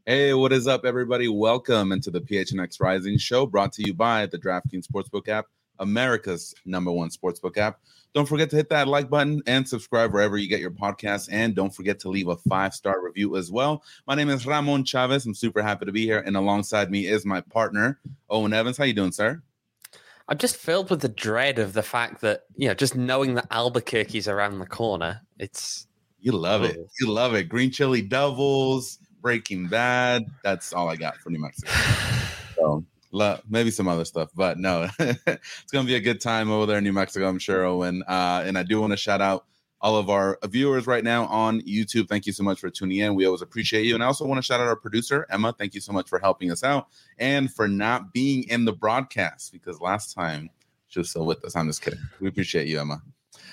Hey, what is up, everybody? Welcome into the PHNX Rising Show, brought to you by the DraftKings Sportsbook app, America's #1 sportsbook app. Don't forget to hit that like button and subscribe wherever you get your podcasts, and don't forget to leave a 5-star review as well. My name is Ramon Chavez. I'm super happy to be here, and alongside me is my partner, Owen Evans. How you doing, sir? I'm just filled with the dread of the fact that, just knowing that Albuquerque's around the corner, it's... You love it. You love it. Green chili doubles, Breaking Bad. That's all I got for New Mexico. So maybe some other stuff, but no, it's going to be a good time over there in New Mexico, I'm sure, Owen. And I do want to shout out all of our viewers right now on YouTube. Thank you so much for tuning in. We always appreciate you. And I also want to shout out our producer, Emma. Thank you so much for helping us out and for not being in the broadcast, because last time she was still with us. I'm just kidding. We appreciate you, Emma.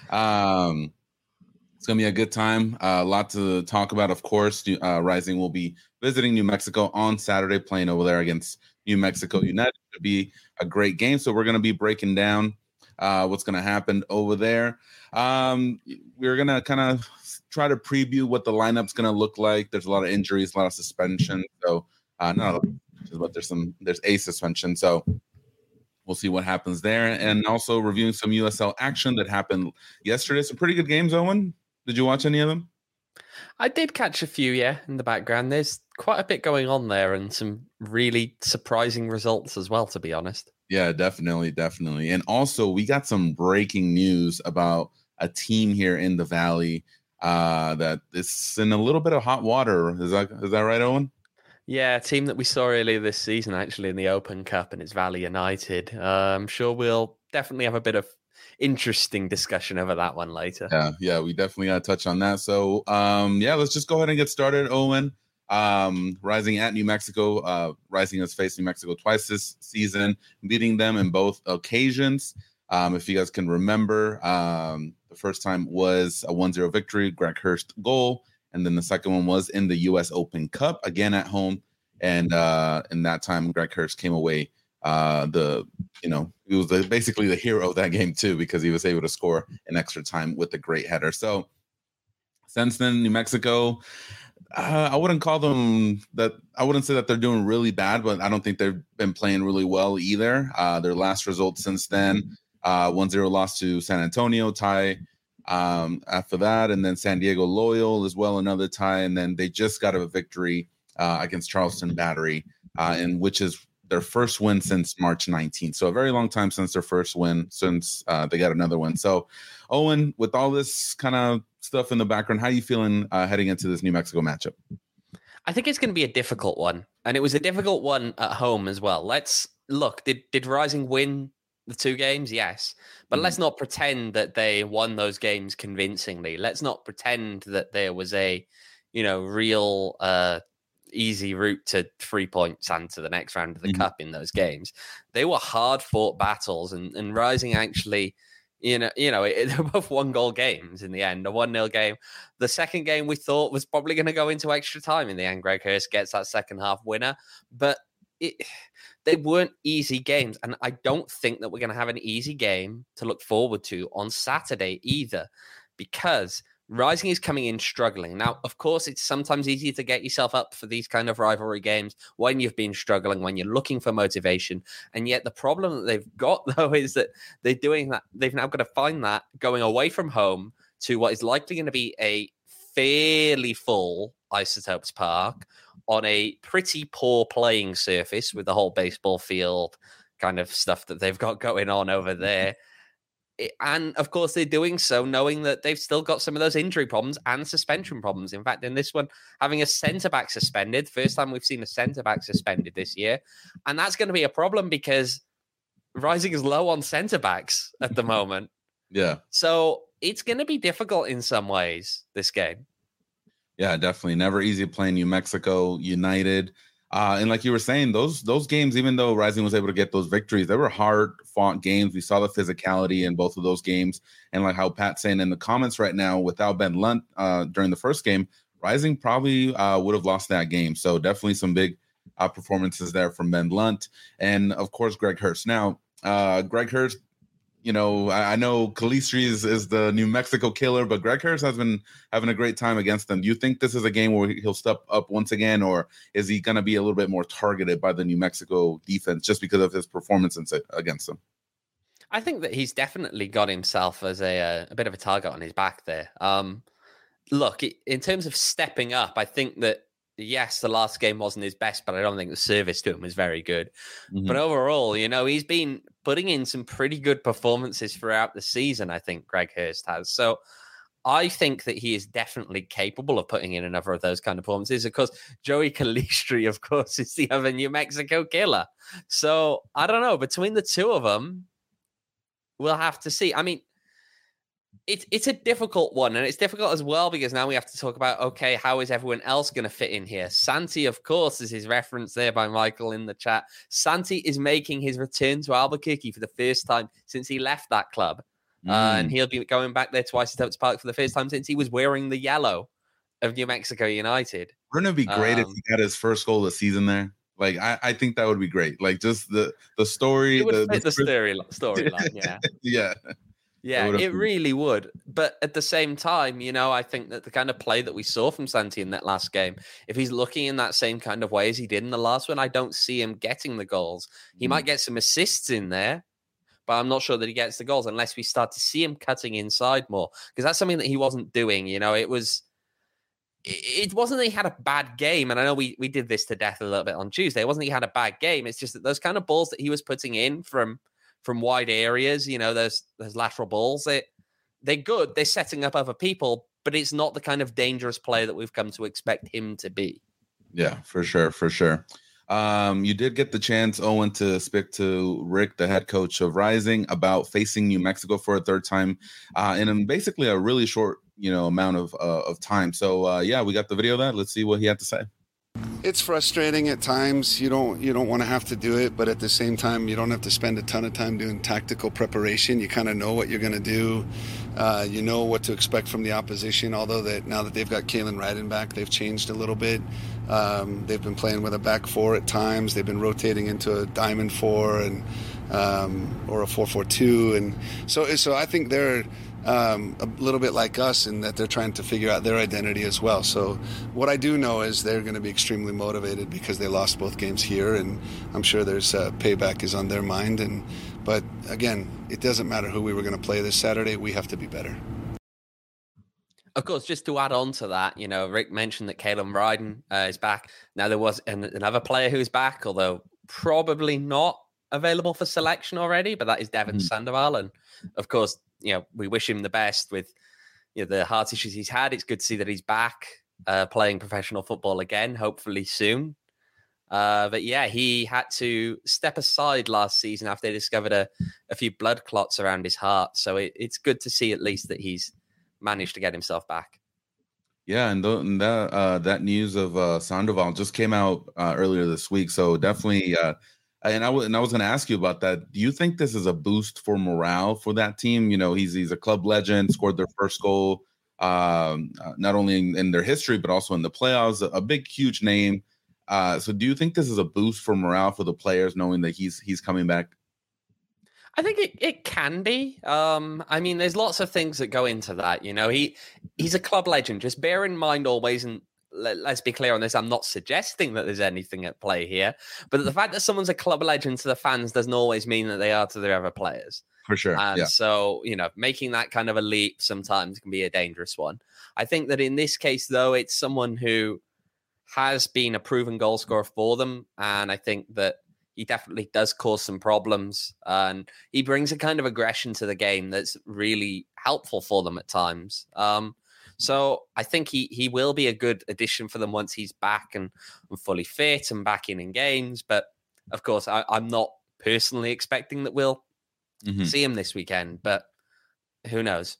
It's going to be a good time. A lot to talk about, of course. Rising will be visiting New Mexico on Saturday, playing over there against New Mexico United. It'll be a great game. So we're going to be breaking down what's going to happen over there. We're going to kind of try to preview what the lineup's going to look like. There's a lot of injuries, a lot of suspension. So but there's a suspension. So we'll see what happens there. And also reviewing some USL action that happened yesterday. Some pretty good games, Owen. Did you watch any of them? I did catch a few, in the background. There's quite a bit going on there and some really surprising results as well, to be honest. Yeah, definitely. And also, we got some breaking news about a team here in the Valley that is in a little bit of hot water. Is that right, Owen? Yeah, a team that we saw earlier this season, actually, in the Open Cup, and it's Valley United. I'm sure we'll definitely have a bit of interesting discussion over that one later. Yeah, we definitely got to touch on that. So, let's just go ahead and get started, Owen. Rising at New Mexico. Rising has faced New Mexico twice this season, beating them in both occasions. If you guys can remember, the first time was a 1-0 victory, Greg Hurst goal. And then the second one was in the U.S. Open Cup, again at home. And in that time, Greg Hurst came away. He was basically the hero of that game too, because he was able to score in extra time with a great header. So since then, New Mexico, I wouldn't say that they're doing really bad, but I don't think they've been playing really well either. Their last result since then, 1-0 loss to San Antonio, tie after that, and then San Diego Loyal as well, another tie, and then they just got a victory against Charleston Battery, and which is their first win since March 19th. So a very long time since their first win, since they got another one. So, Owen, with all this kind of stuff in the background, how are you feeling heading into this New Mexico matchup? I think it's going to be a difficult one. And it was a difficult one at home as well. Let's look, did Rising win the two games? Yes. But let's not pretend that they won those games convincingly. Let's not pretend that there was a, real easy route to 3 points and to the next round of the cup in those games. They were hard fought battles, and Rising actually, they were both 1-goal games in the end, a 1-0 game. The second game we thought was probably going to go into extra time. In the end, Greg Hurst gets that second half winner, but they weren't easy games. And I don't think that we're going to have an easy game to look forward to on Saturday either, because Rising is coming in struggling. Now, of course, it's sometimes easy to get yourself up for these kind of rivalry games when you've been struggling, when you're looking for motivation. And yet the problem that they've got, though, is that they're doing that. They've now got to find that going away from home to what is likely going to be a fairly full Isotopes Park on a pretty poor playing surface with the whole baseball field kind of stuff that they've got going on over there. And, of course, they're doing so knowing that they've still got some of those injury problems and suspension problems. In fact, in this one, having a centre-back suspended, first time we've seen a centre-back suspended this year. And that's going to be a problem because Rising is low on centre-backs at the moment. Yeah. So it's going to be difficult in some ways, this game. Yeah, definitely. Never easy playing New Mexico United. And like you were saying, those games, even though Rising was able to get those victories, they were hard-fought games. We saw the physicality in both of those games. And like how Pat's saying in the comments right now, without Ben Lunt during the first game, Rising probably would have lost that game. So definitely some big performances there from Ben Lunt. And, of course, Greg Hurst. Now, Greg Hurst I know Calistri is the New Mexico killer, but Greg Harris has been having a great time against them. Do you think this is a game where he'll step up once again, or is he going to be a little bit more targeted by the New Mexico defense just because of his performance against them? I think that he's definitely got himself as a bit of a target on his back there. Look, in terms of stepping up, I think that, yes, the last game wasn't his best, but I don't think the service to him was very good. Mm-hmm. But overall, he's been putting in some pretty good performances throughout the season, I think Greg Hurst has. So I think that he is definitely capable of putting in another of those kind of performances. Of course, Joey Calistri, of course, is the other New Mexico killer. So I don't know. Between the two of them, we'll have to see. I mean, it's a difficult one, and it's difficult as well because now we have to talk about, okay, how is everyone else going to fit in here? Santi, of course, is his reference there by Michael in the chat. Santi is making his return to Albuquerque for the first time since he left that club. And he'll be going back there twice at Oaks Park for the first time since he was wearing the yellow of New Mexico United. Wouldn't it be great if he got his first goal of the season there? Like, I think that would be great. Like, just the story. It would fit the storyline, yeah. Yeah. Yeah, it really would. But at the same time, I think that the kind of play that we saw from Santi in that last game, if he's looking in that same kind of way as he did in the last one, I don't see him getting the goals. He might get some assists in there, but I'm not sure that he gets the goals unless we start to see him cutting inside more, because that's something that he wasn't doing. It wasn't that he had a bad game, and I know we did this to death a little bit on Tuesday. It wasn't that he had a bad game. It's just that those kind of balls that he was putting in from wide areas, those lateral balls, they're good. They're setting up other people, but it's not the kind of dangerous player that we've come to expect him to be. Yeah, for sure. You did get the chance, Owen, to speak to Rick, the head coach of Rising, about facing New Mexico for a third time in basically a really short, amount of time. So, we got the video of that. Let's see what he had to say. It's frustrating at times. You don't want to have to do it, but at the same time, you don't have to spend a ton of time doing tactical preparation. You kind of know what you're going to do. You know what to expect from the opposition, although that now that they've got Kalen Ryden back, they've changed a little bit. They've been playing with a back four at times. They've been rotating into a diamond four and or a 4-4-2. And so I think they're a little bit like us in that they're trying to figure out their identity as well. So what I do know is they're going to be extremely motivated because they lost both games here, and I'm sure there's payback is on their mind. But again, it doesn't matter who we were going to play this Saturday. We have to be better. Of course, just to add on to that, Rick mentioned that Kalen Ryden is back. Now, there was another player who's back, although probably not available for selection already, but that is Devin Sandoval. And of course, we wish him the best with the heart issues he's had. It's good to see that he's back playing professional football again, hopefully soon. But yeah, he had to step aside last season after they discovered a few blood clots around his heart. So it's good to see at least that he's managed to get himself back. Yeah, and that news of Sandoval just came out earlier this week. So definitely... And I was going to ask you about that. Do you think this is a boost for morale for that team? He's a club legend, scored their first goal, not only in their history, but also in the playoffs, a big, huge name. So do you think this is a boost for morale for the players, knowing that he's coming back? I think it can be. I mean, there's lots of things that go into that. He's a club legend. Just bear in mind always, and let's be clear on this, I'm not suggesting that there's anything at play here, but the fact that someone's a club legend to the fans doesn't always mean that they are to their other players. For sure. And so, making that kind of a leap sometimes can be a dangerous one. I think that in this case, though, it's someone who has been a proven goal scorer for them. And I think that he definitely does cause some problems. And he brings a kind of aggression to the game that's really helpful for them at times. So I think he will be a good addition for them once he's back and fully fit and back in games. But of course, I'm not personally expecting that we'll see him this weekend, but who knows?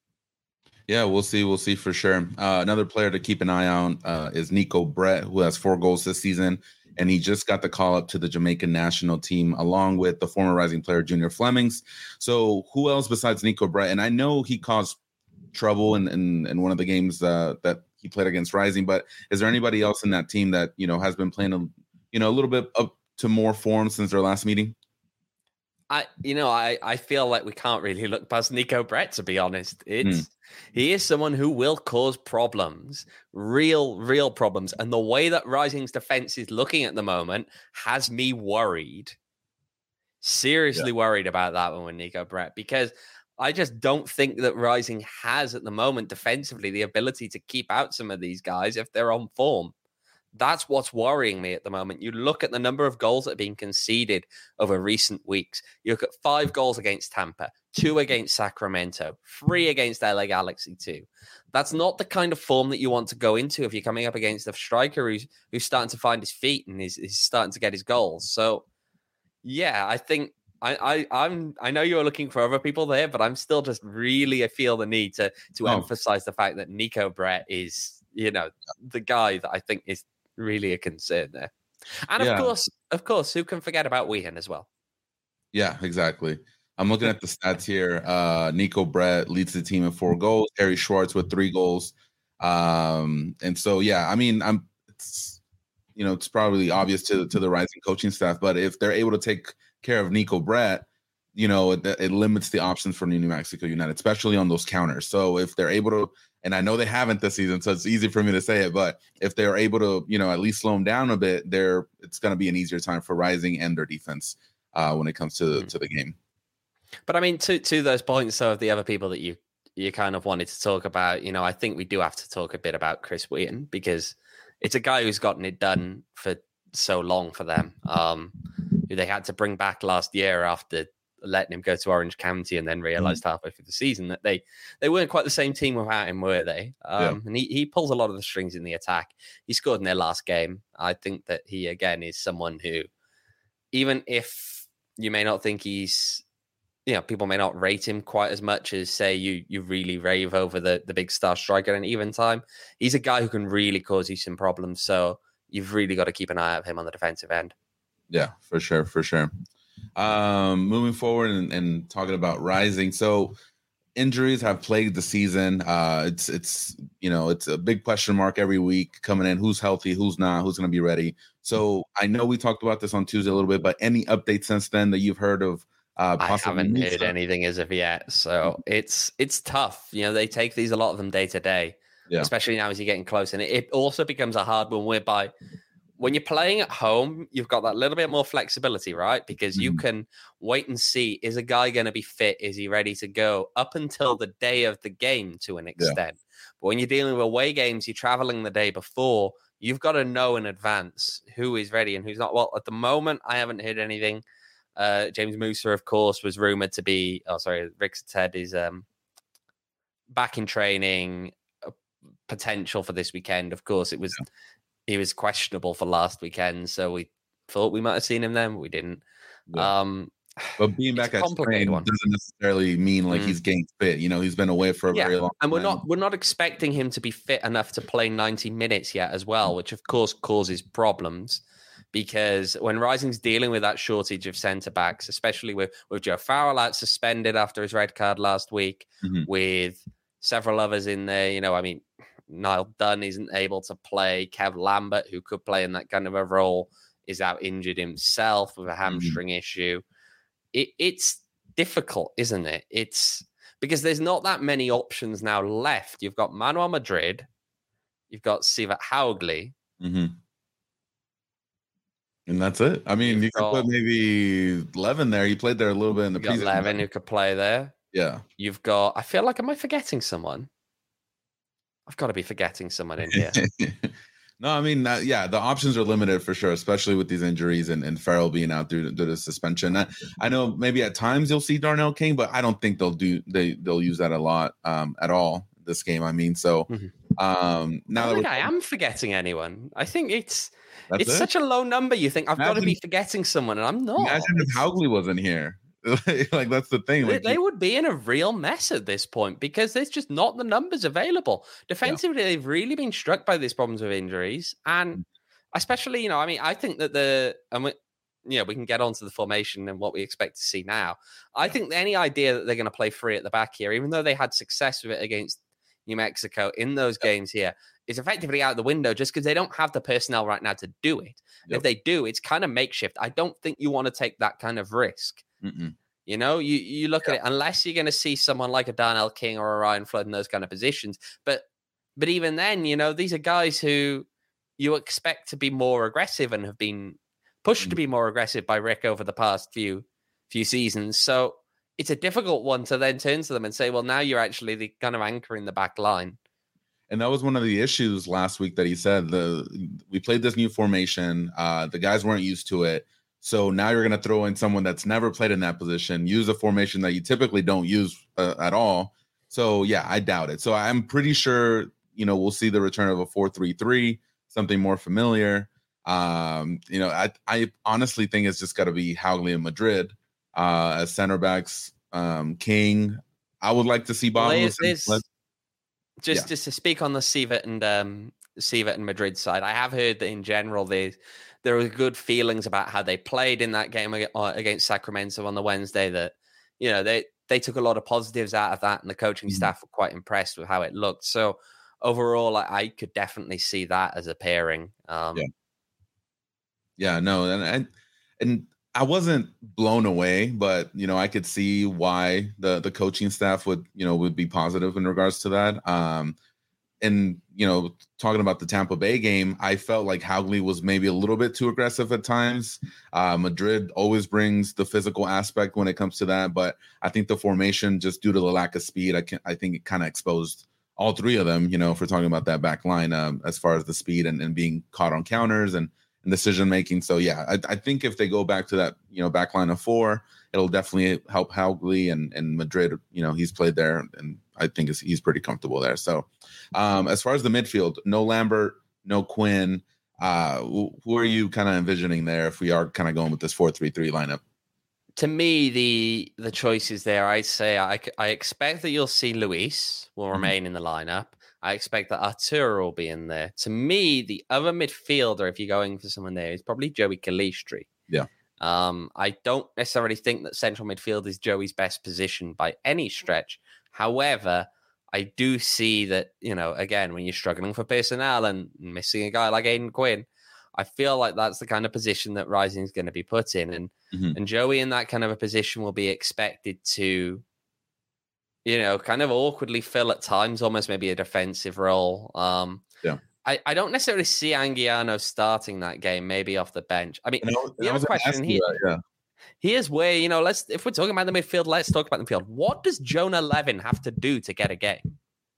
Yeah, we'll see. We'll see for sure. Another player to keep an eye on is Nico Brett, who has 4 goals this season. And he just got the call up to the Jamaican national team, along with the former Rising player, Junior Flemings. So who else besides Nico Brett? And I know he caused trouble in one of the games that he played against Rising, but is there anybody else in that team that has been playing a little bit up to more form since their last meeting? I feel like we can't really look past Nico Brett, to be honest. He is someone who will cause problems, real problems. And the way that Rising's defense is looking at the moment has me worried. Seriously worried about that one with Nico Brett, because I just don't think that Rising has at the moment defensively the ability to keep out some of these guys if they're on form. That's what's worrying me at the moment. You look at the number of goals that have been conceded over recent weeks. You look at 5 goals against Tampa, 2 against Sacramento, 3 against LA Galaxy 2. That's not the kind of form that you want to go into if you're coming up against a striker who's starting to find his feet and is starting to get his goals. So, yeah, I think I know you're looking for other people there, but I'm still just I feel the need to emphasize the fact that Nico Brett is, the guy that I think is really a concern there. And of course, who can forget about Weehan as well? Yeah, exactly. I'm looking at the stats here. Nico Brett leads the team in 4 goals. Harry Schwartz with 3 goals. And so, yeah, I mean, it's probably obvious to the Rising coaching staff, but if they're able to take care of Nico Brett, it limits the options for New Mexico United, especially on those counters. So if they're able to, and I know they haven't this season, so it's easy for me to say it, but if they're able to, at least slow them down a bit, it's going to be an easier time for Rising and their defense when it comes to the game. But I mean, to those points, so of the other people that you kind of wanted to talk about, I think we do have to talk a bit about Chris Wheaton, because it's a guy who's gotten it done for so long for them, who they had to bring back last year after letting him go to Orange County, and then realized halfway through the season that they weren't quite the same team without him, were they? And he pulls a lot of the strings in the attack. He scored in their last game. I think that he, again, is someone who, even if you may not think he's, people may not rate him quite as much as, say, you really rave over the big star striker in even time, he's a guy who can really cause you some problems. So you've really got to keep an eye on him on the defensive end. Yeah, for sure. Moving forward and talking about Rising. So injuries have plagued the season. It's a big question mark every week coming in. Who's healthy? Who's not? Who's going to be ready? So I know we talked about this on Tuesday a little bit, but any updates since then that you've heard of? I haven't heard anything as of yet. So it's tough. They take a lot of them day to day, especially now as you're getting close. And it also becomes a hard one whereby when you're playing at home, you've got that little bit more flexibility, right? Because you can wait and see, is a guy going to be fit? Is he ready to go up until the day of the game to an extent? Yeah. But when you're dealing with away games, you're traveling the day before, you've got to know in advance who is ready and who's not. Well, at the moment, I haven't heard anything. James Musa, of course, was rumored to be, Rick Ted is back in training, potential for this weekend. Of course, he was questionable for last weekend, so we thought we might have seen him then, but we didn't. Yeah. But being back at training doesn't necessarily mean like he's getting fit. He's been away for a very long time. And we're not expecting him to be fit enough to play 90 minutes yet as well, which of course causes problems, because when Rising's dealing with that shortage of centre backs, especially with Joe Farrell out suspended after his red card last week, with several others in there, Niall Dunn isn't able to play. Kev Lambert, who could play in that kind of a role, is out injured himself with a hamstring issue. It's difficult, isn't it? It's because there's not that many options now left. You've got Manuel Madrid, you've got Sivat Haugli. And that's it. I mean, you could put maybe Levin there. He played there a little bit in the preseason. Levin who could play there. Yeah. You've got, I feel like, am I forgetting someone? I've got to be forgetting someone in here. No, I mean, the options are limited for sure, especially with these injuries and Farrell being out due to suspension. I know maybe at times you'll see Darnell King, but I don't think they'll use that a lot at all this game. I mean, so now I am forgetting anyone. I think it's such a low number. You think I've got to be forgetting someone, and I'm not. Imagine if Haugli wasn't here. Like, that's the thing. Like, they would be in a real mess at this point because there's just not the numbers available. Defensively, they've really been struck by these problems with injuries, and especially, I think that we can get onto the formation and what we expect to see now. I think any idea that they're going to play free at the back here, even though they had success with it against New Mexico in those games here, is effectively out the window just because they don't have the personnel right now to do it. If they do, it's kind of makeshift. I don't think you want to take that kind of risk. You know, you look at it, unless you're going to see someone like a Darnell King or a Ryan Flood in those kind of positions. But even then, you know, these are guys who you expect to be more aggressive and have been pushed to be more aggressive by Rick over the past few seasons. So it's a difficult one to then turn to them and say, well, now you're actually the kind of anchor in the back line. And that was one of the issues last week that he said. We played this new formation. The guys weren't used to it. So now you're going to throw in someone that's never played in that position, use a formation that you typically don't use at all. So, yeah, I doubt it. So I'm pretty sure, you know, we'll see the return of a 4-3-3, something more familiar. You know, I honestly think it's just got to be Haugley and Madrid as center backs. King, I would like to see Bob. Just to speak on the Sievert and Madrid side, I have heard that in general there were good feelings about how they played in that game against Sacramento on the Wednesday. That, you know, they took a lot of positives out of that, and the coaching staff were quite impressed with how it looked. So overall, I could definitely see that as a pairing. No, and I wasn't blown away, but, you know, I could see why the coaching staff would be positive in regards to that. And, you know, talking about the Tampa Bay game, I felt like Haugley was maybe a little bit too aggressive at times. Madrid always brings the physical aspect when it comes to that, but I think the formation, just due to the lack of speed, I think it kind of exposed all three of them, you know, if we're talking about that back line, as far as the speed and being caught on counters and decision making. So yeah, I think if they go back to that, you know, back line of four, it'll definitely help Haugley and Madrid. You know, he's played there, and I think he's pretty comfortable there. So as far as the midfield, no Lambert, no Quinn. Who are you kind of envisioning there if we are kind of going with this 4-3-3 lineup? To me, the choices there, I'd say I expect that you'll see Luis will remain in the lineup. I expect that Arturo will be in there. To me, the other midfielder, if you're going for someone there, is probably Joey Calistri. Yeah. I don't necessarily think that central midfield is Joey's best position by any stretch. However, I do see that, you know, again, when you're struggling for personnel and missing a guy like Aidan Quinn, I feel like that's the kind of position that Rising is going to be put in. And Joey in that kind of a position will be expected to, you know, kind of awkwardly fill at times, almost maybe a defensive role. I don't necessarily see Anguiano starting that game, maybe off the bench. I mean, the other question here, here's where, you know, if we're talking about the midfield, let's talk about the midfield. What does Jonah Levin have to do to get a game?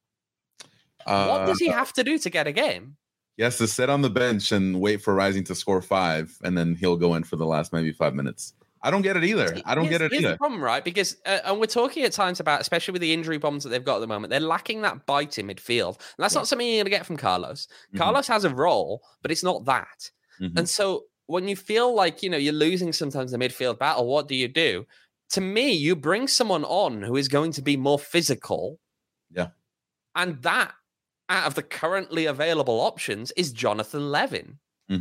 What does he have to do to get a game? He has to sit on the bench and wait for Rising to score 5, and then he'll go in for the last maybe 5 minutes. I don't get it either. Here's the problem, right? Because, and we're talking at times about, especially with the injury problems that they've got at the moment, they're lacking that bite in midfield. And that's not something you're going to get from Carlos. Carlos has a role, but it's not that. And so when you feel like, you know, you're losing sometimes the midfield battle, what do you do? To me, you bring someone on who is going to be more physical. Yeah. And that, out of the currently available options, is Jonathan Levin.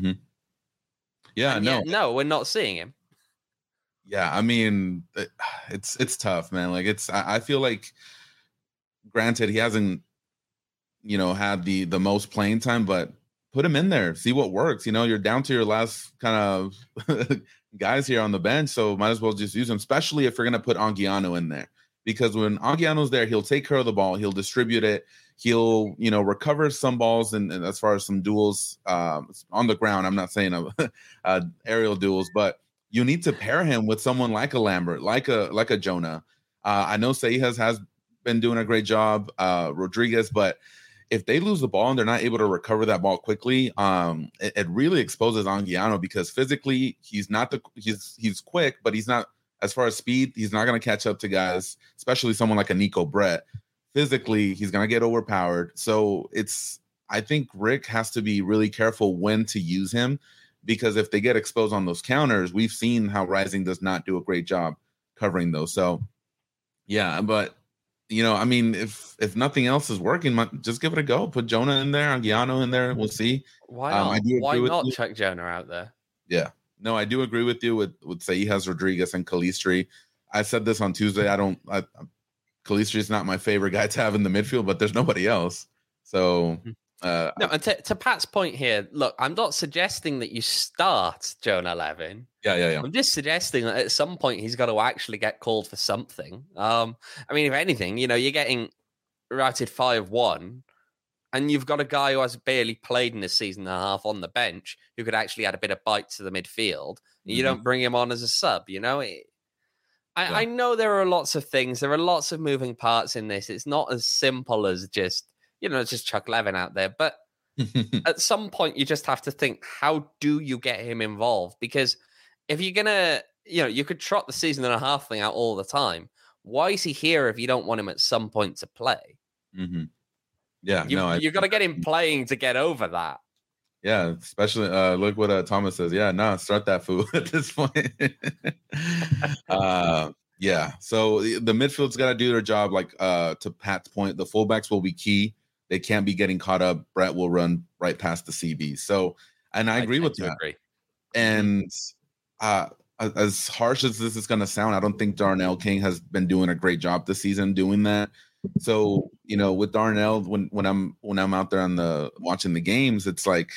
Yeah, no, we're not seeing him. Yeah, I mean, it's tough, man. Like I feel like, granted, he hasn't, you know, had the most playing time, but put him in there, see what works. You know, you're down to your last kind of guys here on the bench, so might as well just use him, especially if you're going to put Anguiano in there. Because when Anguiano's there, he'll take care of the ball, he'll distribute it, he'll, you know, recover some balls, and as far as some duels on the ground, I'm not saying aerial duels, but you need to pair him with someone like a Lambert, like a Jonah. I know Seijas has been doing a great job, Rodriguez, but if they lose the ball and they're not able to recover that ball quickly, it really exposes Anguiano, because physically he's quick, but he's not, as far as speed, he's not going to catch up to guys, especially someone like a Nico Brett. Physically, he's going to get overpowered. So I think Rick has to be really careful when to use him, because if they get exposed on those counters, we've seen how Rising does not do a great job covering those. So, yeah, but, you know, I mean, if nothing else is working, just give it a go. Put Jonah in there, Anguiano in there. We'll see. Why not? Why not chuck Jonah out there? Yeah. No, I do agree with you with Seijas, Rodriguez, and Calistri. I said this on Tuesday. Calistri is not my favorite guy to have in the midfield, but there's nobody else. So No, and to Pat's point here, look, I'm not suggesting that you start Jonah Levin. Yeah. I'm just suggesting that at some point he's got to actually get called for something. I mean, if anything, you're getting routed 5-1, and you've got a guy who has barely played in a season and a half on the bench who could actually add a bit of bite to the midfield. You don't bring him on as a sub, I know there are lots of things. There are lots of moving parts in this. It's not as simple as just chuck Levin out there. But at some point, you just have to think, how do you get him involved? Because if you're going to, you could trot the season and a half thing out all the time. Why is he here if you don't want him at some point to play? Mm-hmm. Yeah, you've got to get him playing to get over that. Yeah, especially look what Thomas says. Yeah, no, start that fool at this point. Yeah, so the midfield's got to do their job. Like to Pat's point, the fullbacks will be key. They can't be getting caught up. Brett will run right past the CB. So, and I agree with that. Agree. And as harsh as this is going to sound, I don't think Darnell King has been doing a great job this season doing that. So, with Darnell, when I'm out there on watching the games, it's like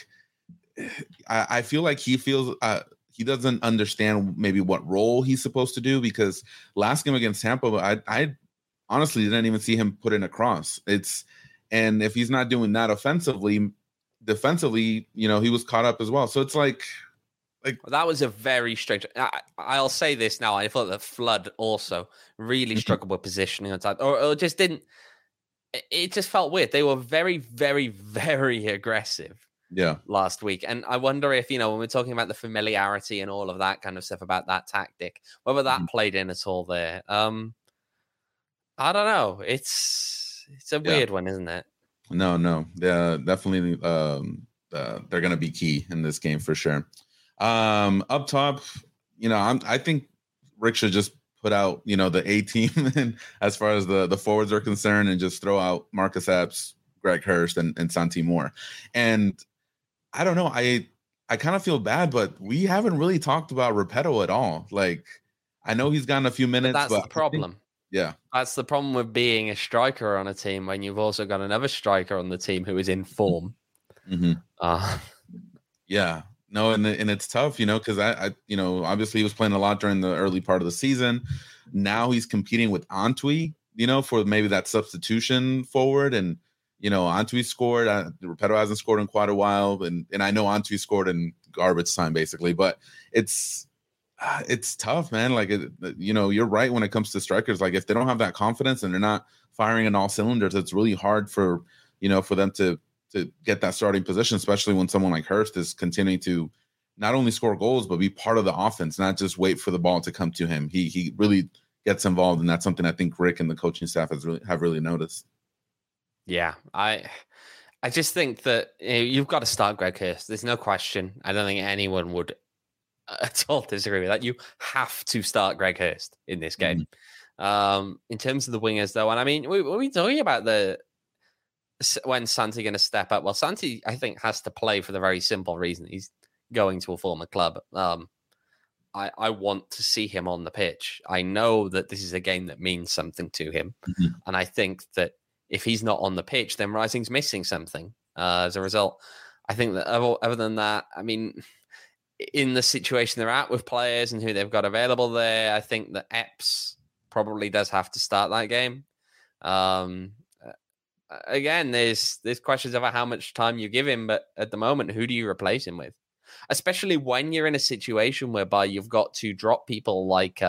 I feel like he feels he doesn't understand maybe what role he's supposed to do, because last game against Tampa, I honestly didn't even see him put in a cross. And if he's not doing that defensively, he was caught up as well. So it's like that was a very strange. I'll say this now. I thought that Flood also really struggled with positioning on time, or just didn't. It just felt weird. They were very, very, very aggressive. Yeah. Last week, and I wonder if when we're talking about the familiarity and all of that kind of stuff about that tactic, whether that played in at all there. I don't know. It's a weird one, isn't it? No. Yeah, definitely. They're going to be key in this game for sure. Up top, I think Rick should just put out, the A team and as far as the forwards are concerned, and just throw out Marcus Epps, Greg Hurst, and Santi Moore. And I don't know. I kind of feel bad, but we haven't really talked about Repetto at all. Like, I know he's gotten a few minutes, but that's the problem. That's the problem with being a striker on a team when you've also got another striker on the team who is in form. Mm-hmm. Yeah. No, and it's tough, because I obviously he was playing a lot during the early part of the season. Now he's competing with Antwi, for maybe that substitution forward. And, Antwi scored. Repetto hasn't scored in quite a while. And I know Antwi scored in garbage time, basically. But it's tough, man. Like, you're right when it comes to strikers. Like, if they don't have that confidence and they're not firing on all cylinders, it's really hard for them to get that starting position, especially when someone like Hurst is continuing to not only score goals, but be part of the offense, not just wait for the ball to come to him. He really gets involved, and that's something I think Rick and the coaching staff have really noticed. Yeah, I just think that you've got to start Greg Hurst. There's no question. I don't think anyone would at all disagree with that. You have to start Greg Hurst in this game. In terms of the wingers, though, and I mean, we're talking about when Santi going to step up. Well, Santi, I think, has to play for the very simple reason he's going to a former club. I want to see him on the pitch. I know that this is a game that means something to him. And I think that if he's not on the pitch, then Rising's missing something. As a result, I think that other than that, I mean, in the situation they're at with players and who they've got available there, I think that Epps probably does have to start that game. Again, there's questions about how much time you give him, but at the moment, who do you replace him with? Especially when you're in a situation whereby you've got to drop people like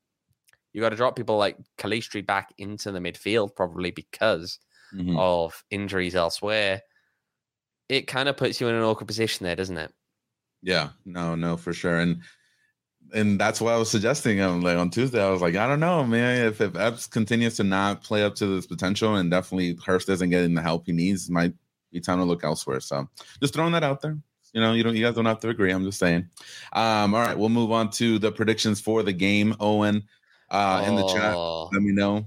Calistri back into the midfield, probably because of injuries elsewhere. It kind of puts you in an awkward position there, doesn't it? Yeah, no, for sure. And that's why I was suggesting like on Tuesday, I was like, I don't know, man, if Epps continues to not play up to this potential, and definitely Hurst isn't getting the help he needs, it might be time to look elsewhere. So just throwing that out there. You guys don't have to agree. I'm just saying. All right, we'll move on to the predictions for the game. Owen, in the chat, let me know.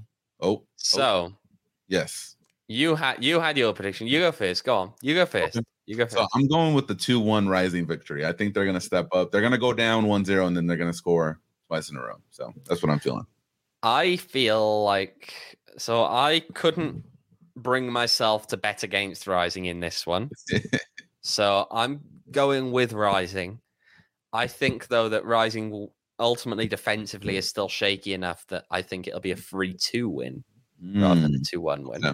Yes. You had your prediction. You go first. Go on. You go first. Okay. So I'm going with the 2-1 Rising victory. I think they're going to step up. They're going to go down 1-0, and then they're going to score twice in a row. So that's what I'm feeling. I feel like I couldn't bring myself to bet against Rising in this one. So I'm going with Rising. I think, though, that Rising will ultimately defensively is still shaky enough that I think it'll be a 3-2 win rather than a 2-1 win. Yeah.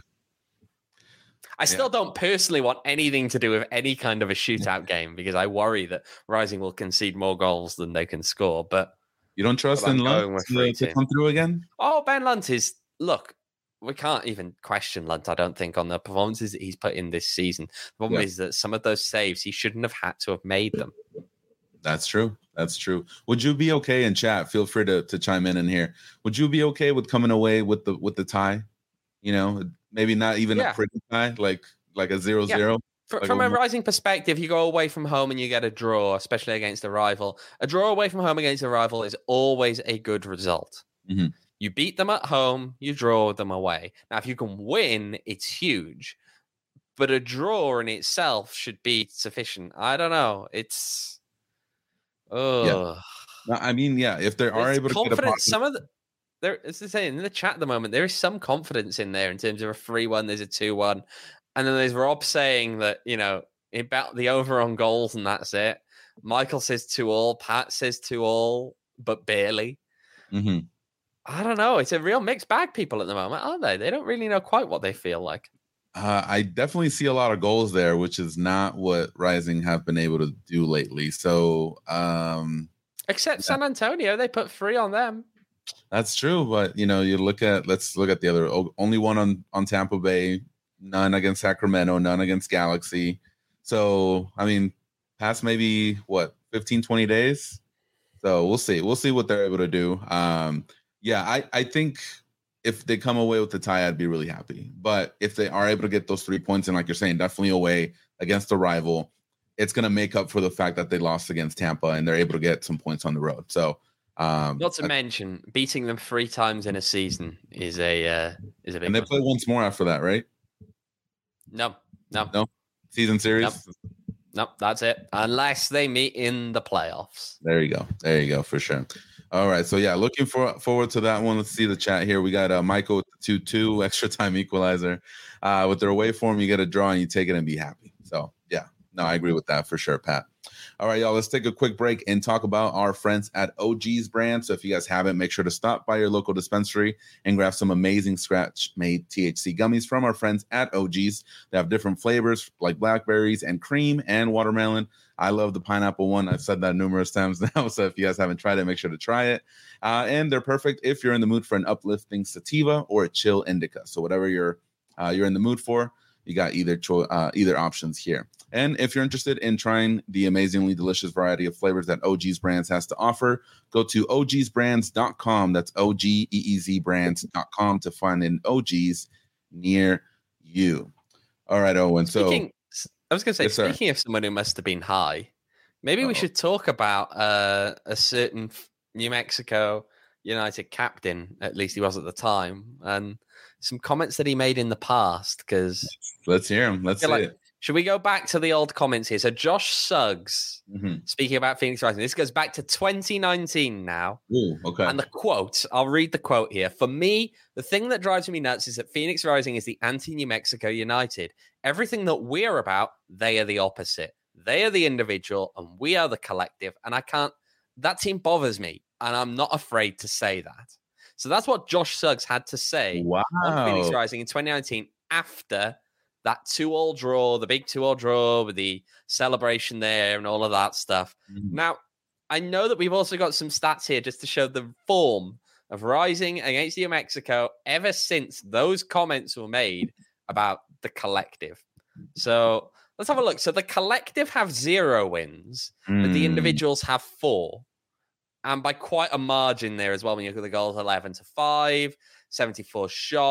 I still don't personally want anything to do with any kind of a shootout game because I worry that Rising will concede more goals than they can score. But you don't trust in Lunt to come through again? Oh, Ben Lunt is... Look, we can't even question Lunt, I don't think, on the performances that he's put in this season. The problem is that some of those saves, he shouldn't have had to have made them. That's true. That's true. Would you be okay in chat? Feel free to chime in here. Would you be okay with coming away with the tie? You know, maybe not even a pretty tie, like a 0-0. From a Rising perspective, you go away from home and you get a draw, especially against a rival. A draw away from home against a rival is always a good result. Mm-hmm. You beat them at home, you draw them away. Now, if you can win, it's huge. But a draw in itself should be sufficient. I don't know. It's... Yeah. I mean, if they are able to get a positive... It's the same in the chat at the moment. There is some confidence in there in terms of a 3-1, there's a 2-1. And then there's Rob saying that, about the over on goals and that's it. Michael says 2-2. Pat says 2-2, but barely. Mm-hmm. I don't know. It's a real mixed bag, people, at the moment, aren't they? They don't really know quite what they feel like. I definitely see a lot of goals there, which is not what Rising have been able to do lately. So, except San Antonio, they put 3 on them. That's true, but let's look at the other. Only one on Tampa Bay, none against Sacramento, none against Galaxy. So, I mean, past maybe 15, 20 days. So we'll see what they're able to do. I think if they come away with the tie, I'd be really happy. But if they are able to get those 3 points, and like you're saying, definitely away against a rival, it's going to make up for the fact that they lost against Tampa and they're able to get some points on the road. So, not to mention beating them 3 times in a season is a big. And they play once more after that, right? No. Season series. No, that's it. Unless they meet in the playoffs. There you go, for sure. All right, so looking forward to that one. Let's see the chat here. We got Michael with the 2-2 extra time equalizer. With their away form, you get a draw and you take it and be happy. So no, I agree with that for sure, Pat. All right, y'all, let's take a quick break and talk about our friends at OG's brand. So if you guys haven't, make sure to stop by your local dispensary and grab some amazing scratch-made THC gummies from our friends at OG's. They have different flavors like blackberries and cream and watermelon. I love the pineapple one. I've said that numerous times now. So if you guys haven't tried it, make sure to try it. And they're perfect if you're in the mood for an uplifting sativa or a chill indica. So whatever you're in the mood for, you got either options here. And if you're interested in trying the amazingly delicious variety of flavors that OG's Brands has to offer, go to ogsbrands.com. That's OGEEZbrands.com to find an OG's near you. All right, Owen. I was going to say, speaking of someone who must have been high, maybe we should talk about a certain New Mexico United captain, at least he was at the time, and some comments that he made in the past. Because let's hear him. Let's see it. Should we go back to the old comments here? So Josh Suggs, speaking about Phoenix Rising, this goes back to 2019 now. Ooh, okay. And the quote, I'll read the quote here. For me, the thing that drives me nuts is that Phoenix Rising is the anti-New Mexico United. Everything that we're about, they are the opposite. They are the individual and we are the collective. And that team bothers me. And I'm not afraid to say that. So that's what Josh Suggs had to say on Phoenix Rising in 2019 after that 2-2 draw, the big 2-2 draw with the celebration there and all of that stuff. Mm-hmm. Now, I know that we've also got some stats here just to show the form of Rising against New Mexico ever since those comments were made about the collective. So let's have a look. So the collective have 0 wins, but the individuals have 4. And by quite a margin there as well, when you look at the goals, 11-5, 74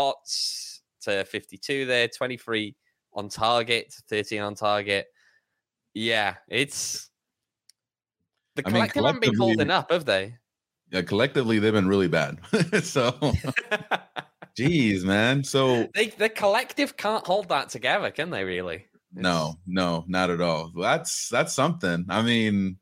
shots to 52 there, 23 on target, 13 on target. Yeah, it's... The collective haven't been holding up, have they? Yeah, collectively, they've been really bad. So, geez, man. So... The collective can't hold that together, can they, really? No, not at all. That's something. I mean...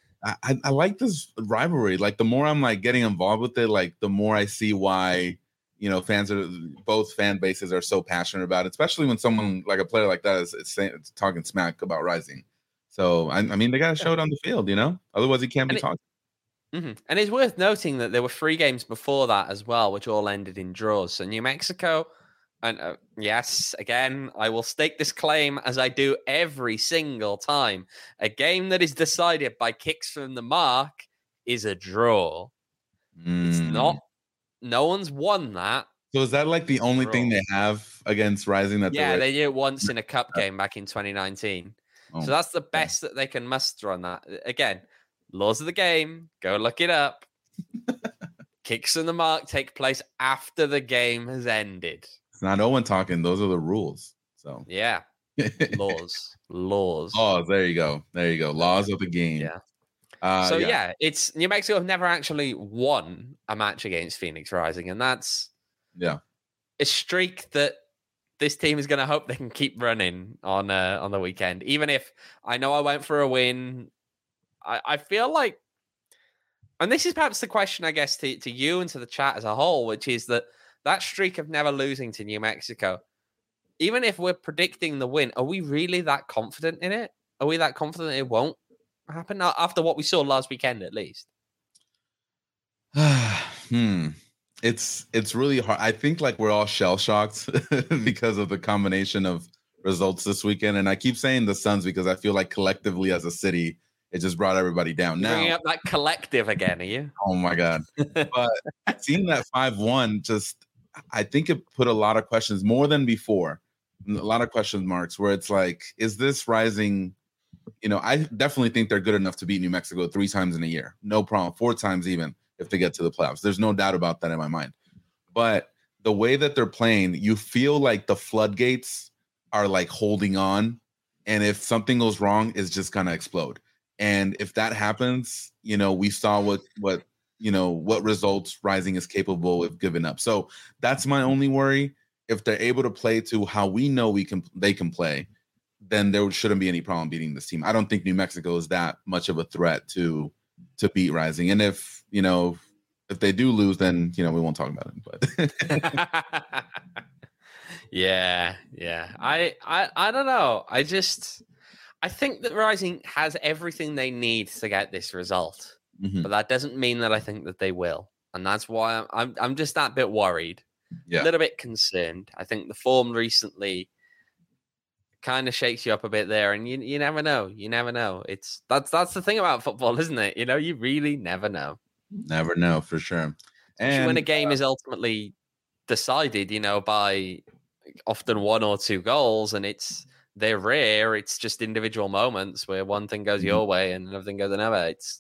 I like this rivalry. Like, the more I'm like getting involved with it, like the more I see why fans are both fan bases are so passionate about it, especially when someone like a player like that is talking smack about Rising. So I mean, they got to show it on the field, otherwise he can't be talking. Mm-hmm. And it's worth noting that there were 3 games before that as well, which all ended in draws. So New Mexico, and yes, again, I will stake this claim as I do every single time. A game that is decided by kicks from the mark is a draw. It's not. No one's won that. So is that like the only thing they have against Rising? They did it once in a cup game back in 2019. So that's the best that they can muster on that. Again, laws of the game. Go look it up. Kicks from the mark take place after the game has ended. It's not Owen talking. Those are the rules. So yeah, laws. Oh, there you go. Laws of the game. Yeah. It's New Mexico have never actually won a match against Phoenix Rising, and that's a streak that this team is going to hope they can keep running on the weekend. Even if I know I went for a win, I feel like, and this is perhaps the question, I guess, to you and to the chat as a whole, which is that streak of never losing to New Mexico, even if we're predicting the win, are we really that confident in it? Are we that confident it won't happen after what we saw last weekend, at least? It's really hard. I think like we're all shell shocked because of the combination of results this weekend, and I keep saying the Suns because I feel like collectively as a city, it just brought everybody down. You're bringing up that collective again, are you? Oh my god! But seeing that 5-1, just I think it put a lot of questions more than before. A lot of question marks where it's like, is this Rising? I definitely think they're good enough to beat New Mexico 3 times in a year. No problem. 4 times even if they get to the playoffs. There's no doubt about that in my mind. But the way that they're playing, you feel like the floodgates are like holding on. And if something goes wrong, it's just going to explode. And if that happens, we saw what results Rising is capable of giving up. So that's my only worry. If they're able to play to how we know they can play, then there shouldn't be any problem beating this team. I don't think New Mexico is that much of a threat to beat Rising. And if they do lose, then we won't talk about it. But yeah. I don't know. I think that Rising has everything they need to get this result. Mm-hmm. But that doesn't mean that I think that they will. And that's why I'm just that bit worried. Yeah. A little bit concerned. I think the form recently kind of shakes you up a bit there, and you never know. That's the thing about football, isn't it? You really never know. Never know for sure. And when a game is ultimately decided, by often 1 or 2 goals, and they're rare. It's just individual moments where one thing goes your way and another thing goes another. It's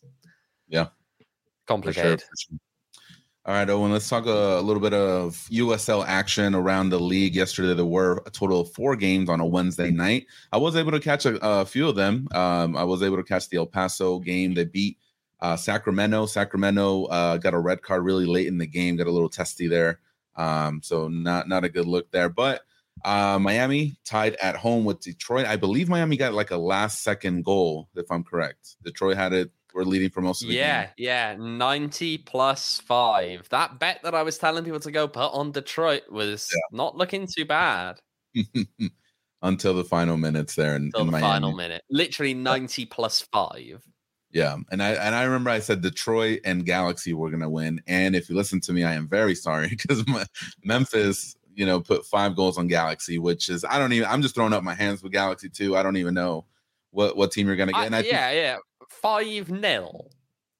complicated. For sure. All right, Owen, let's talk a little bit of USL action around the league. Yesterday, there were a total of 4 games on a Wednesday night. I was able to catch a few of them. I was able to catch the El Paso game. They beat Sacramento. Sacramento got a red card really late in the game, got a little testy there. So not a good look there. But Miami tied at home with Detroit. I believe Miami got like a last-second goal, if I'm correct. Detroit had it. We're leading for most of the game. Yeah, 90 plus 5. That bet that I was telling people to go put on Detroit was not looking too bad. Until the final minutes there in Miami. Final minute. Literally 90 plus 5. Yeah, and I remember I said Detroit and Galaxy were going to win. And if you listen to me, I am very sorry because Memphis, put 5 goals on Galaxy, which is, I'm just throwing up my hands with Galaxy too. I don't even know what team you're going to get. And 5-0.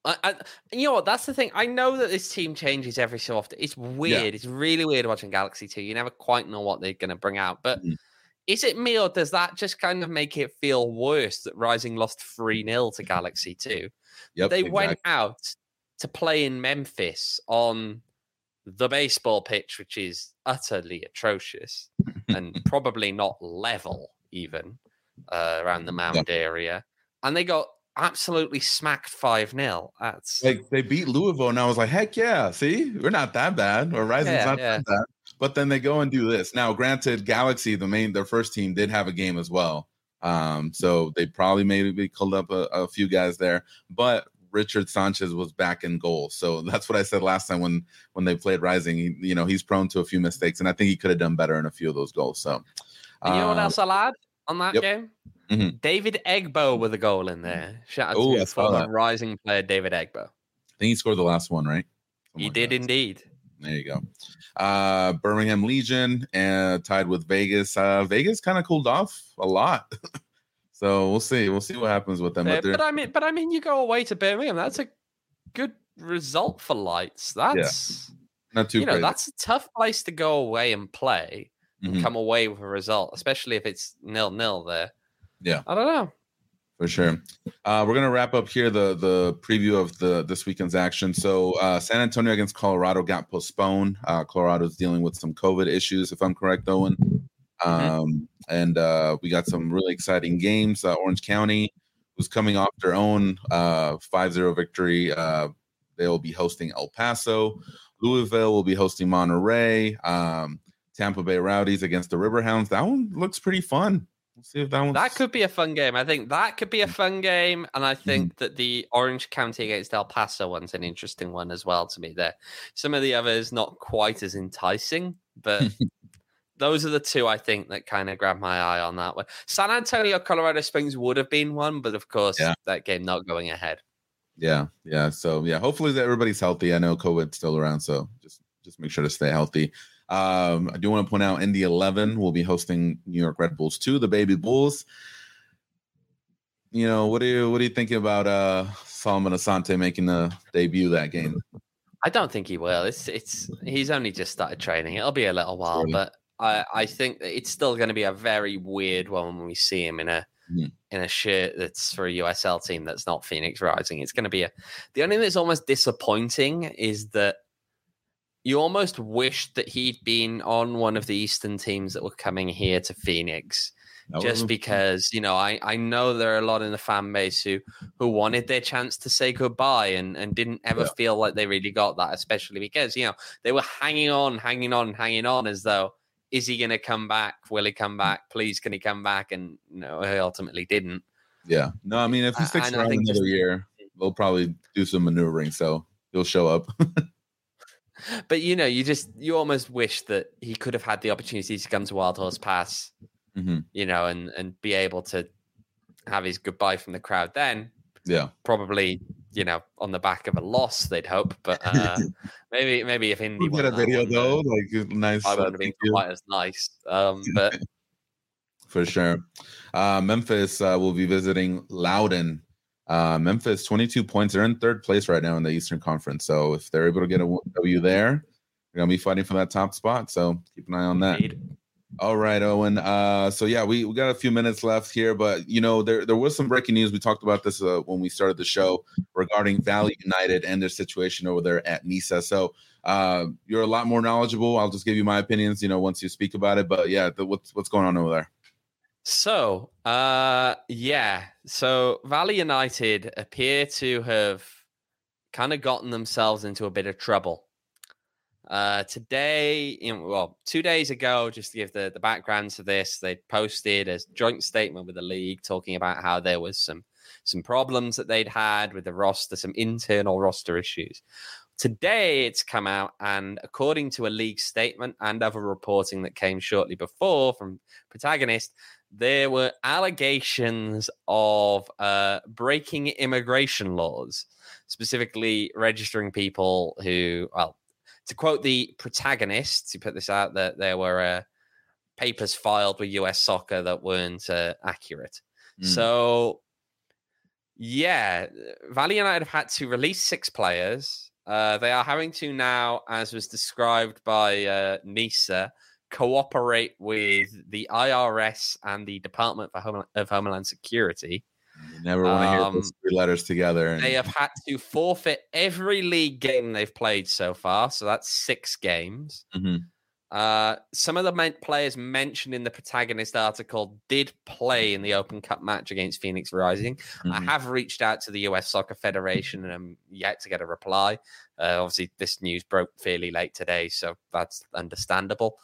You know what? That's the thing. I know that this team changes every so often. It's weird. Yeah. It's really weird watching Galaxy 2. You never quite know what they're going to bring out. But is it me, or does that just kind of make it feel worse that Rising lost 3-0 to Galaxy 2? Yep, they went out to play in Memphis on the baseball pitch, which is utterly atrocious and probably not level even around the mound area. And they got absolutely smacked 5-0. That's like they beat Louisville, and I was like, heck yeah, see, we're not that bad, or Rising's not that bad. But then they go and do this. Now, granted, Galaxy, their first team, did have a game as well. So they probably maybe called up a few guys there. But Richard Sanchez was back in goal. So that's what I said last time when they played Rising. He's prone to a few mistakes, and I think he could have done better in a few of those goals. So, and you know what else I'll add on that yep. game? Mm-hmm. David Egbo with a goal in there. Shout out to former Rising player David Egbo. I think he scored the last one, right? He did indeed. There you go. Birmingham Legion tied with Vegas. Vegas kind of cooled off a lot. So we'll see. We'll see what happens with them. But I mean, you go away to Birmingham. That's a good result for Lights. That's not too. That's a tough place to go away and play and come away with a result, especially if it's 0-0 there. Yeah, I don't know. For sure. We're gonna wrap up here the preview of this weekend's action. So San Antonio against Colorado got postponed. Colorado's dealing with some COVID issues, if I'm correct, Owen. And we got some really exciting games. Orange County was coming off their own 5-0 victory. They'll be hosting El Paso. Louisville will be hosting Monterey. Tampa Bay Rowdies against the Riverhounds. That one looks pretty fun. We'll see if that could be a fun game. I think that could be a fun game. And I think that the Orange County against El Paso one's an interesting one as well to me there. Some of the others not quite as enticing, but those are the two I think that kind of grabbed my eye on that one. San Antonio, Colorado Springs would have been one, but of course that game not going ahead. Yeah. So hopefully everybody's healthy. I know COVID's still around, so just make sure to stay healthy. I do want to point out Indy 11 will be hosting New York Red Bulls 2, the Baby Bulls. What are you thinking about Solomon Asante making the debut that game? I don't think he will. He's only just started training. It'll be a little while, but I think that it's still going to be a very weird one when we see him in a shirt that's for a USL team that's not Phoenix Rising. It's going to be the only thing that's almost disappointing is that you almost wish that he'd been on one of the Eastern teams that were coming here to Phoenix. Just because, I know there are a lot in the fan base who wanted their chance to say goodbye and didn't ever feel like they really got that, especially because, they were hanging on as though, is he going to come back? Will he come back? Please, can he come back? And no, he ultimately didn't. Yeah. No, I mean, if he sticks around another year, they'll probably do some maneuvering, so he'll show up. But, you almost wish that he could have had the opportunity to come to Wild Horse Pass, and be able to have his goodbye from the crowd then. Yeah. Probably, on the back of a loss, they'd hope. But maybe if Indy won a video, though, nice. I would have been quite as nice. But for sure. Memphis will be visiting Loudoun. Memphis, 22 points. They're in third place right now in the Eastern Conference. So if they're able to get a W there, they're going to be fighting for that top spot. So keep an eye on that. Indeed. All right, Owen. We got a few minutes left here, but there was some breaking news. We talked about this when we started the show regarding Valley United and their situation over there at NISA. So you're a lot more knowledgeable. I'll just give you my opinions, once you speak about it. But what's going on over there? So So Valley United appear to have kind of gotten themselves into a bit of trouble. Today, 2 days ago, just to give the background to this, they posted a joint statement with the league talking about how there was some problems that they'd had with the roster, some internal roster issues. Today, it's come out, and according to a league statement and other reporting that came shortly before from Protagonist, there were allegations of breaking immigration laws, specifically registering people who, to quote the Protagonists who put this out, that there were papers filed with US Soccer that weren't accurate. So, Valley United have had to release 6 players. They are having to now, as was described by NISA, cooperate with the IRS and the Department of Homeland Security. You never want to hear those 3 letters together. They have had to forfeit every league game they've played so far. So that's 6 games. Some of the players mentioned in the Protagonist article did play in the Open Cup match against Phoenix Rising. I have reached out to the US Soccer Federation and I'm yet to get a reply. Obviously, this news broke fairly late today, so that's understandable.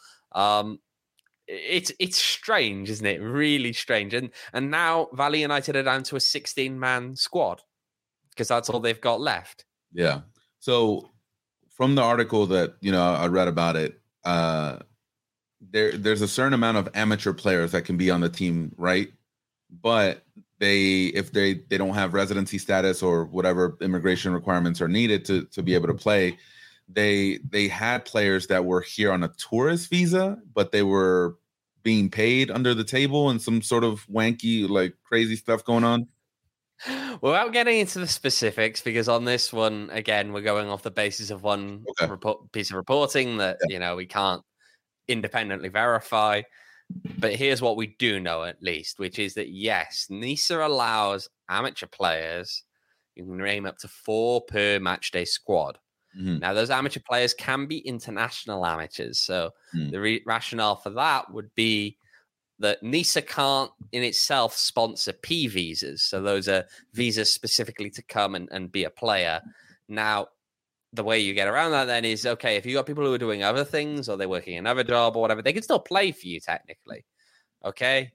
It's strange, isn't it? Really strange. And now Valley United are down to a 16-man squad. because that's all they've got left. Yeah. So from the article that, I read about it, there's a certain amount of amateur players that can be on the team, right? But if they don't have residency status or whatever immigration requirements are needed to be able to play, they had players that were here on a tourist visa, but they were being paid under the table and some sort of wanky, like crazy stuff going on. Without getting into the specifics, because on this one, again, we're going off the basis of one piece of reporting that, we can't independently verify. But here's what we do know, at least, which is that, yes, NISA allows amateur players, you can name up to 4 per matchday squad. Mm-hmm. Now, those amateur players can be international amateurs. So the rationale for that would be that NISA can't in itself sponsor P visas. So those are visas specifically to come and be a player. Now, the way you get around that then is, okay, if you got people who are doing other things or they're working another job or whatever, they can still play for you technically. Okay.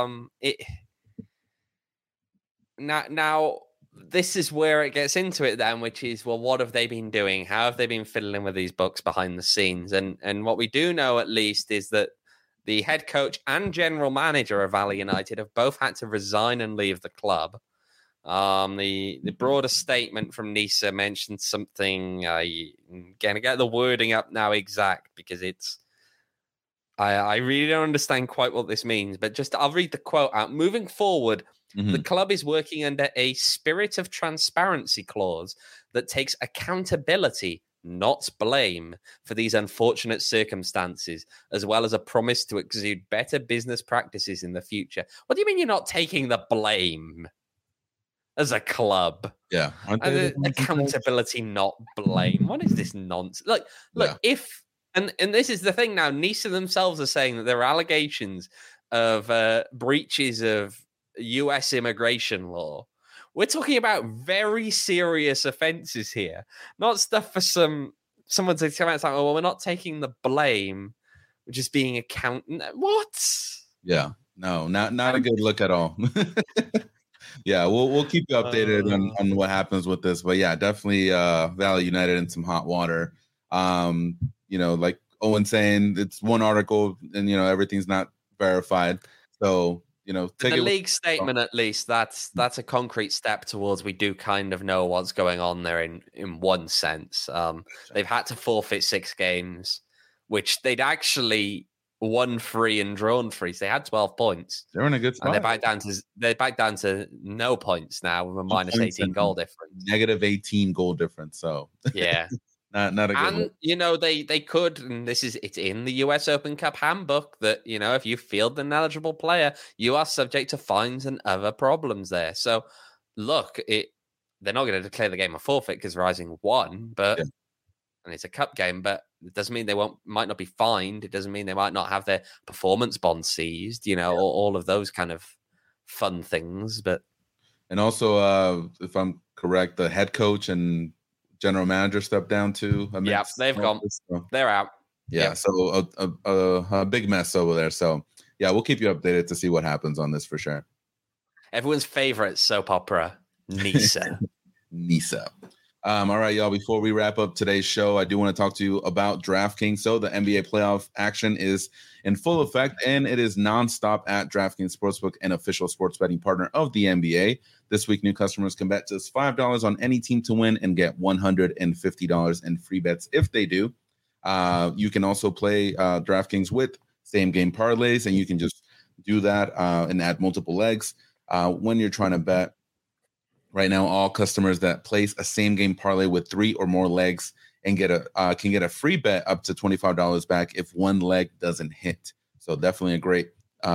Now this is where it gets into it then, which is, well, what have they been doing? How have they been fiddling with these books behind the scenes? And what we do know, at least, is that the head coach and general manager of Valley United have both had to resign and leave the club. The broader statement from NISA mentioned something. I'm going to get the wording up now exact because I really don't understand quite what this means, but I'll read the quote out. Moving forward, the club is working under a spirit of transparency clause that takes accountability, not blame, for these unfortunate circumstances, as well as a promise to exude better business practices in the future. What do you mean you're not taking the blame as a club? Yeah. Accountability, not blame. What is this nonsense? Look, if, and this is the thing now, NISA themselves are saying that there are allegations of breaches of US immigration law. We're talking about very serious offenses here, not stuff for someone to come out and say, oh, well, we're not taking the blame. We're just being accountant. What? Yeah, no, not a good look at all. Yeah, we'll keep you updated on what happens with this. But yeah, definitely Valley United in some hot water. Like Owen saying, it's one article and, everything's not verified. So, the league statement, at least, that's a concrete step towards we do kind of know what's going on there in one sense. They've had to forfeit 6 games, which they'd actually won 3 and drawn 3. So they had 12 points. They're in a good spot. And they're back down to no points now with a minus 18 goal difference. Negative 18 goal difference. So yeah. Not a good one. They could, and it's in the US Open Cup handbook that, if you field an eligible player, you are subject to fines and other problems there. So look, they're not going to declare the game a forfeit because Rising won, and it's a cup game, but it doesn't mean they might not be fined. It doesn't mean they might not have their performance bond seized, all of those kind of fun things. And also, if I'm correct, the head coach and general manager stepped down too. Yeah, they've gone. They're out. Yeah, yep. So a big mess over there. So yeah, we'll keep you updated to see what happens on this for sure. Everyone's favorite soap opera, NISA. NISA. All right, y'all. Before we wrap up today's show, I do want to talk to you about DraftKings. So the NBA playoff action is in full effect, and it is nonstop at DraftKings Sportsbook, an official sports betting partner of the NBA. This week, new customers can bet just $5 on any team to win and get $150 in free bets if they do. You can also play DraftKings with same-game parlays, and you can just do that and add multiple legs when you're trying to bet. Right now, all customers that place a same-game parlay with 3 or more legs and can get a free bet up to $25 back if one leg doesn't hit. So definitely a great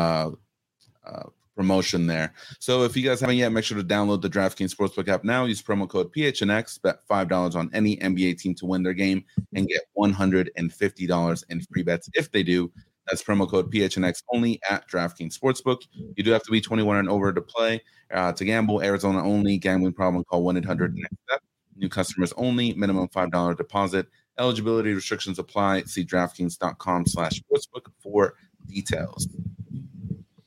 promotion there. So if you guys haven't yet, make sure to download the DraftKings Sportsbook app now. Use promo code PHNX, bet $5 on any NBA team to win their game and get $150 in free bets if they do. That's promo code PHNX only at DraftKings Sportsbook. You do have to be 21 and over to play. To gamble, Arizona only. Gambling problem, call 1-800-NEXT-STEP. New customers only. Minimum $5 deposit. Eligibility restrictions apply. See DraftKings.com/sportsbook for details.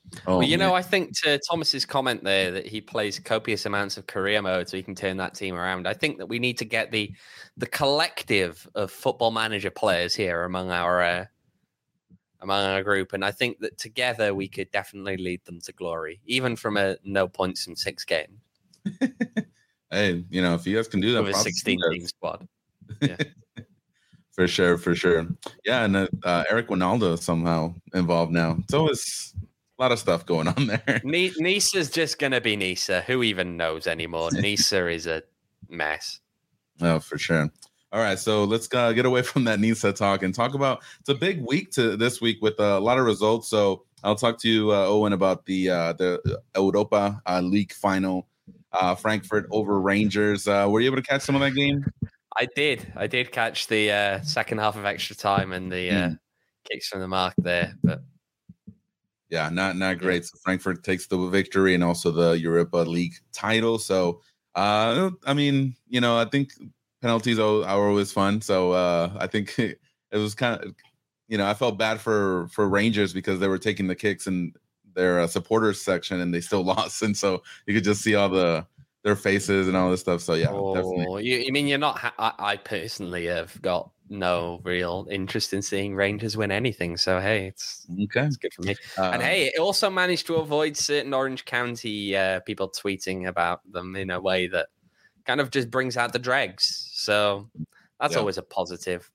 Well, I think to Thomas's comment there that he plays copious amounts of career mode so he can turn that team around. I think that we need to get the collective of Football Manager players here among our group, and I think that together we could definitely lead them to glory, even from a no points from 6 games. Hey, if you guys can do that with a 16-team squad, yeah. For sure. Yeah, and Eric Winaldo somehow involved now. It's always a lot of stuff going on there. Nisa's just going to be Nisa. Who even knows anymore? Nisa is a mess. Oh, for sure. All right, so let's get away from that Nisa talk and talk about, it's a big week this week with a lot of results. So I'll talk to you, Owen, about the Europa League final, Frankfurt over Rangers. Were you able to catch some of that game? I did catch the second half of extra time and the kicks from the mark there, but yeah, not great. So Frankfurt takes the victory and also the Europa League title. So I think penalties are always fun. So I think it was kind of, I felt bad for Rangers because they were taking the kicks in their supporters section and they still lost, and so you could just see all their faces and all this stuff. So yeah, definitely. You mean you're not? I personally have got no real interest in seeing Rangers win anything. So hey, it's good for me. And hey, it also managed to avoid certain Orange County people tweeting about them in a way that kind of just brings out the dregs. So that's always a positive.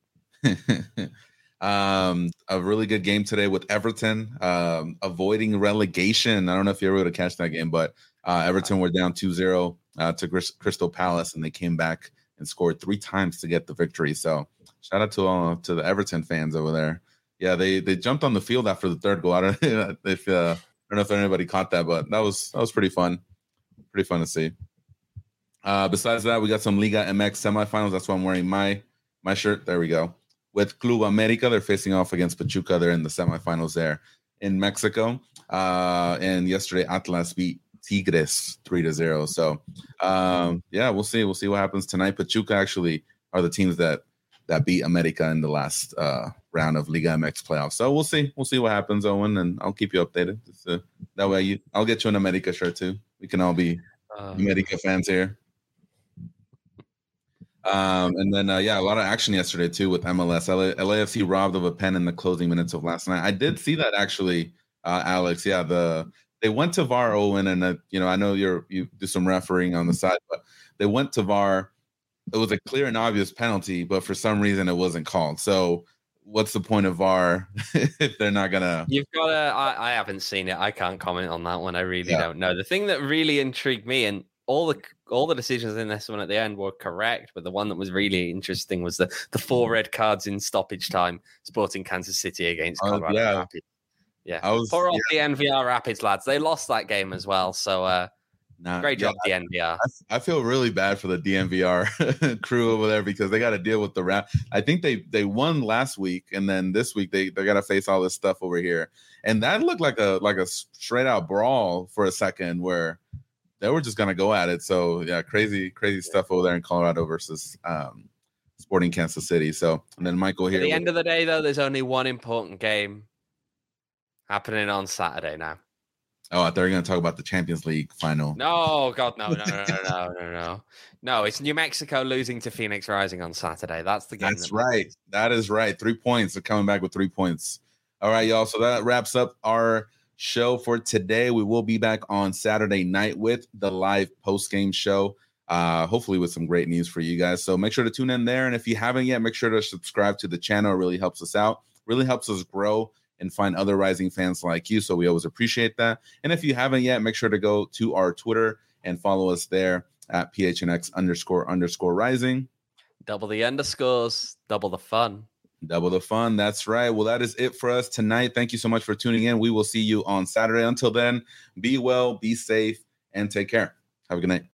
A really good game today with Everton avoiding relegation. I don't know if you were able to catch that game, but Everton were down 2-0 to Crystal Palace, and they came back and scored 3 times to get the victory. So shout out to the Everton fans over there. Yeah, they jumped on the field after the third goal. I don't know if anybody caught that, but that was pretty fun. Pretty fun to see. Besides that, we got some Liga MX semifinals. That's why I'm wearing my shirt. There we go. With Club America, they're facing off against Pachuca. They're in the semifinals there in Mexico. And yesterday, Atlas beat Tigres 3-0. So, we'll see. We'll see what happens tonight. Pachuca actually are the teams that beat America in the last round of Liga MX playoffs. So we'll see. We'll see what happens, Owen, and I'll keep you updated. That way, I'll get you an America shirt too. We can all be America fans here. And then, a lot of action yesterday, too, with MLS. LAFC robbed of a pen in the closing minutes of last night. I did see that, actually, Alex. Yeah, they went to VAR, Owen, and, I know you do some refereeing on the side, but they went to VAR. It was a clear and obvious penalty, but for some reason it wasn't called. So what's the point of VAR if they're not going to... You've got to... I haven't seen it. I can't comment on that one. I really don't know. The thing that really intrigued me, and all the decisions in this one at the end were correct, but the one that was really interesting was the 4 red cards in stoppage time, Sporting Kansas City against Colorado Rapids. Yeah, poor off the NVR Rapids lads. They lost that game as well. So great job, DNVR. I feel really bad for the DNVR crew over there because they got to deal with the I think they won last week, and then this week they got to face all this stuff over here, and that looked like a straight out brawl for a second where they were just going to go at it. So, yeah, crazy stuff over there in Colorado versus Sporting Kansas City. So, and then Michael here. At the end of the day, though, there's only one important game happening on Saturday now. Oh, I thought you were going to talk about the Champions League final. No, God, no. No, it's New Mexico losing to Phoenix Rising on Saturday. That's the game. That's right. That is right. 3 points. They're coming back with 3 points. All right, y'all. So that wraps up our show for today. We will be back on Saturday night with the live post-game show, hopefully with some great news for you guys. So make sure to tune in there. And if you haven't yet, make sure to subscribe to the channel. It really helps us out, really helps us grow and find other Rising fans like you. So we always appreciate that. And if you haven't yet, make sure to go to our Twitter and follow us there at PHNX__Rising. Double the underscores, double the fun. Double the fun. That's right. Well, that is it for us tonight. Thank you so much for tuning in. We will see you on Saturday. Until then, be well, be safe, and take care. Have a good night.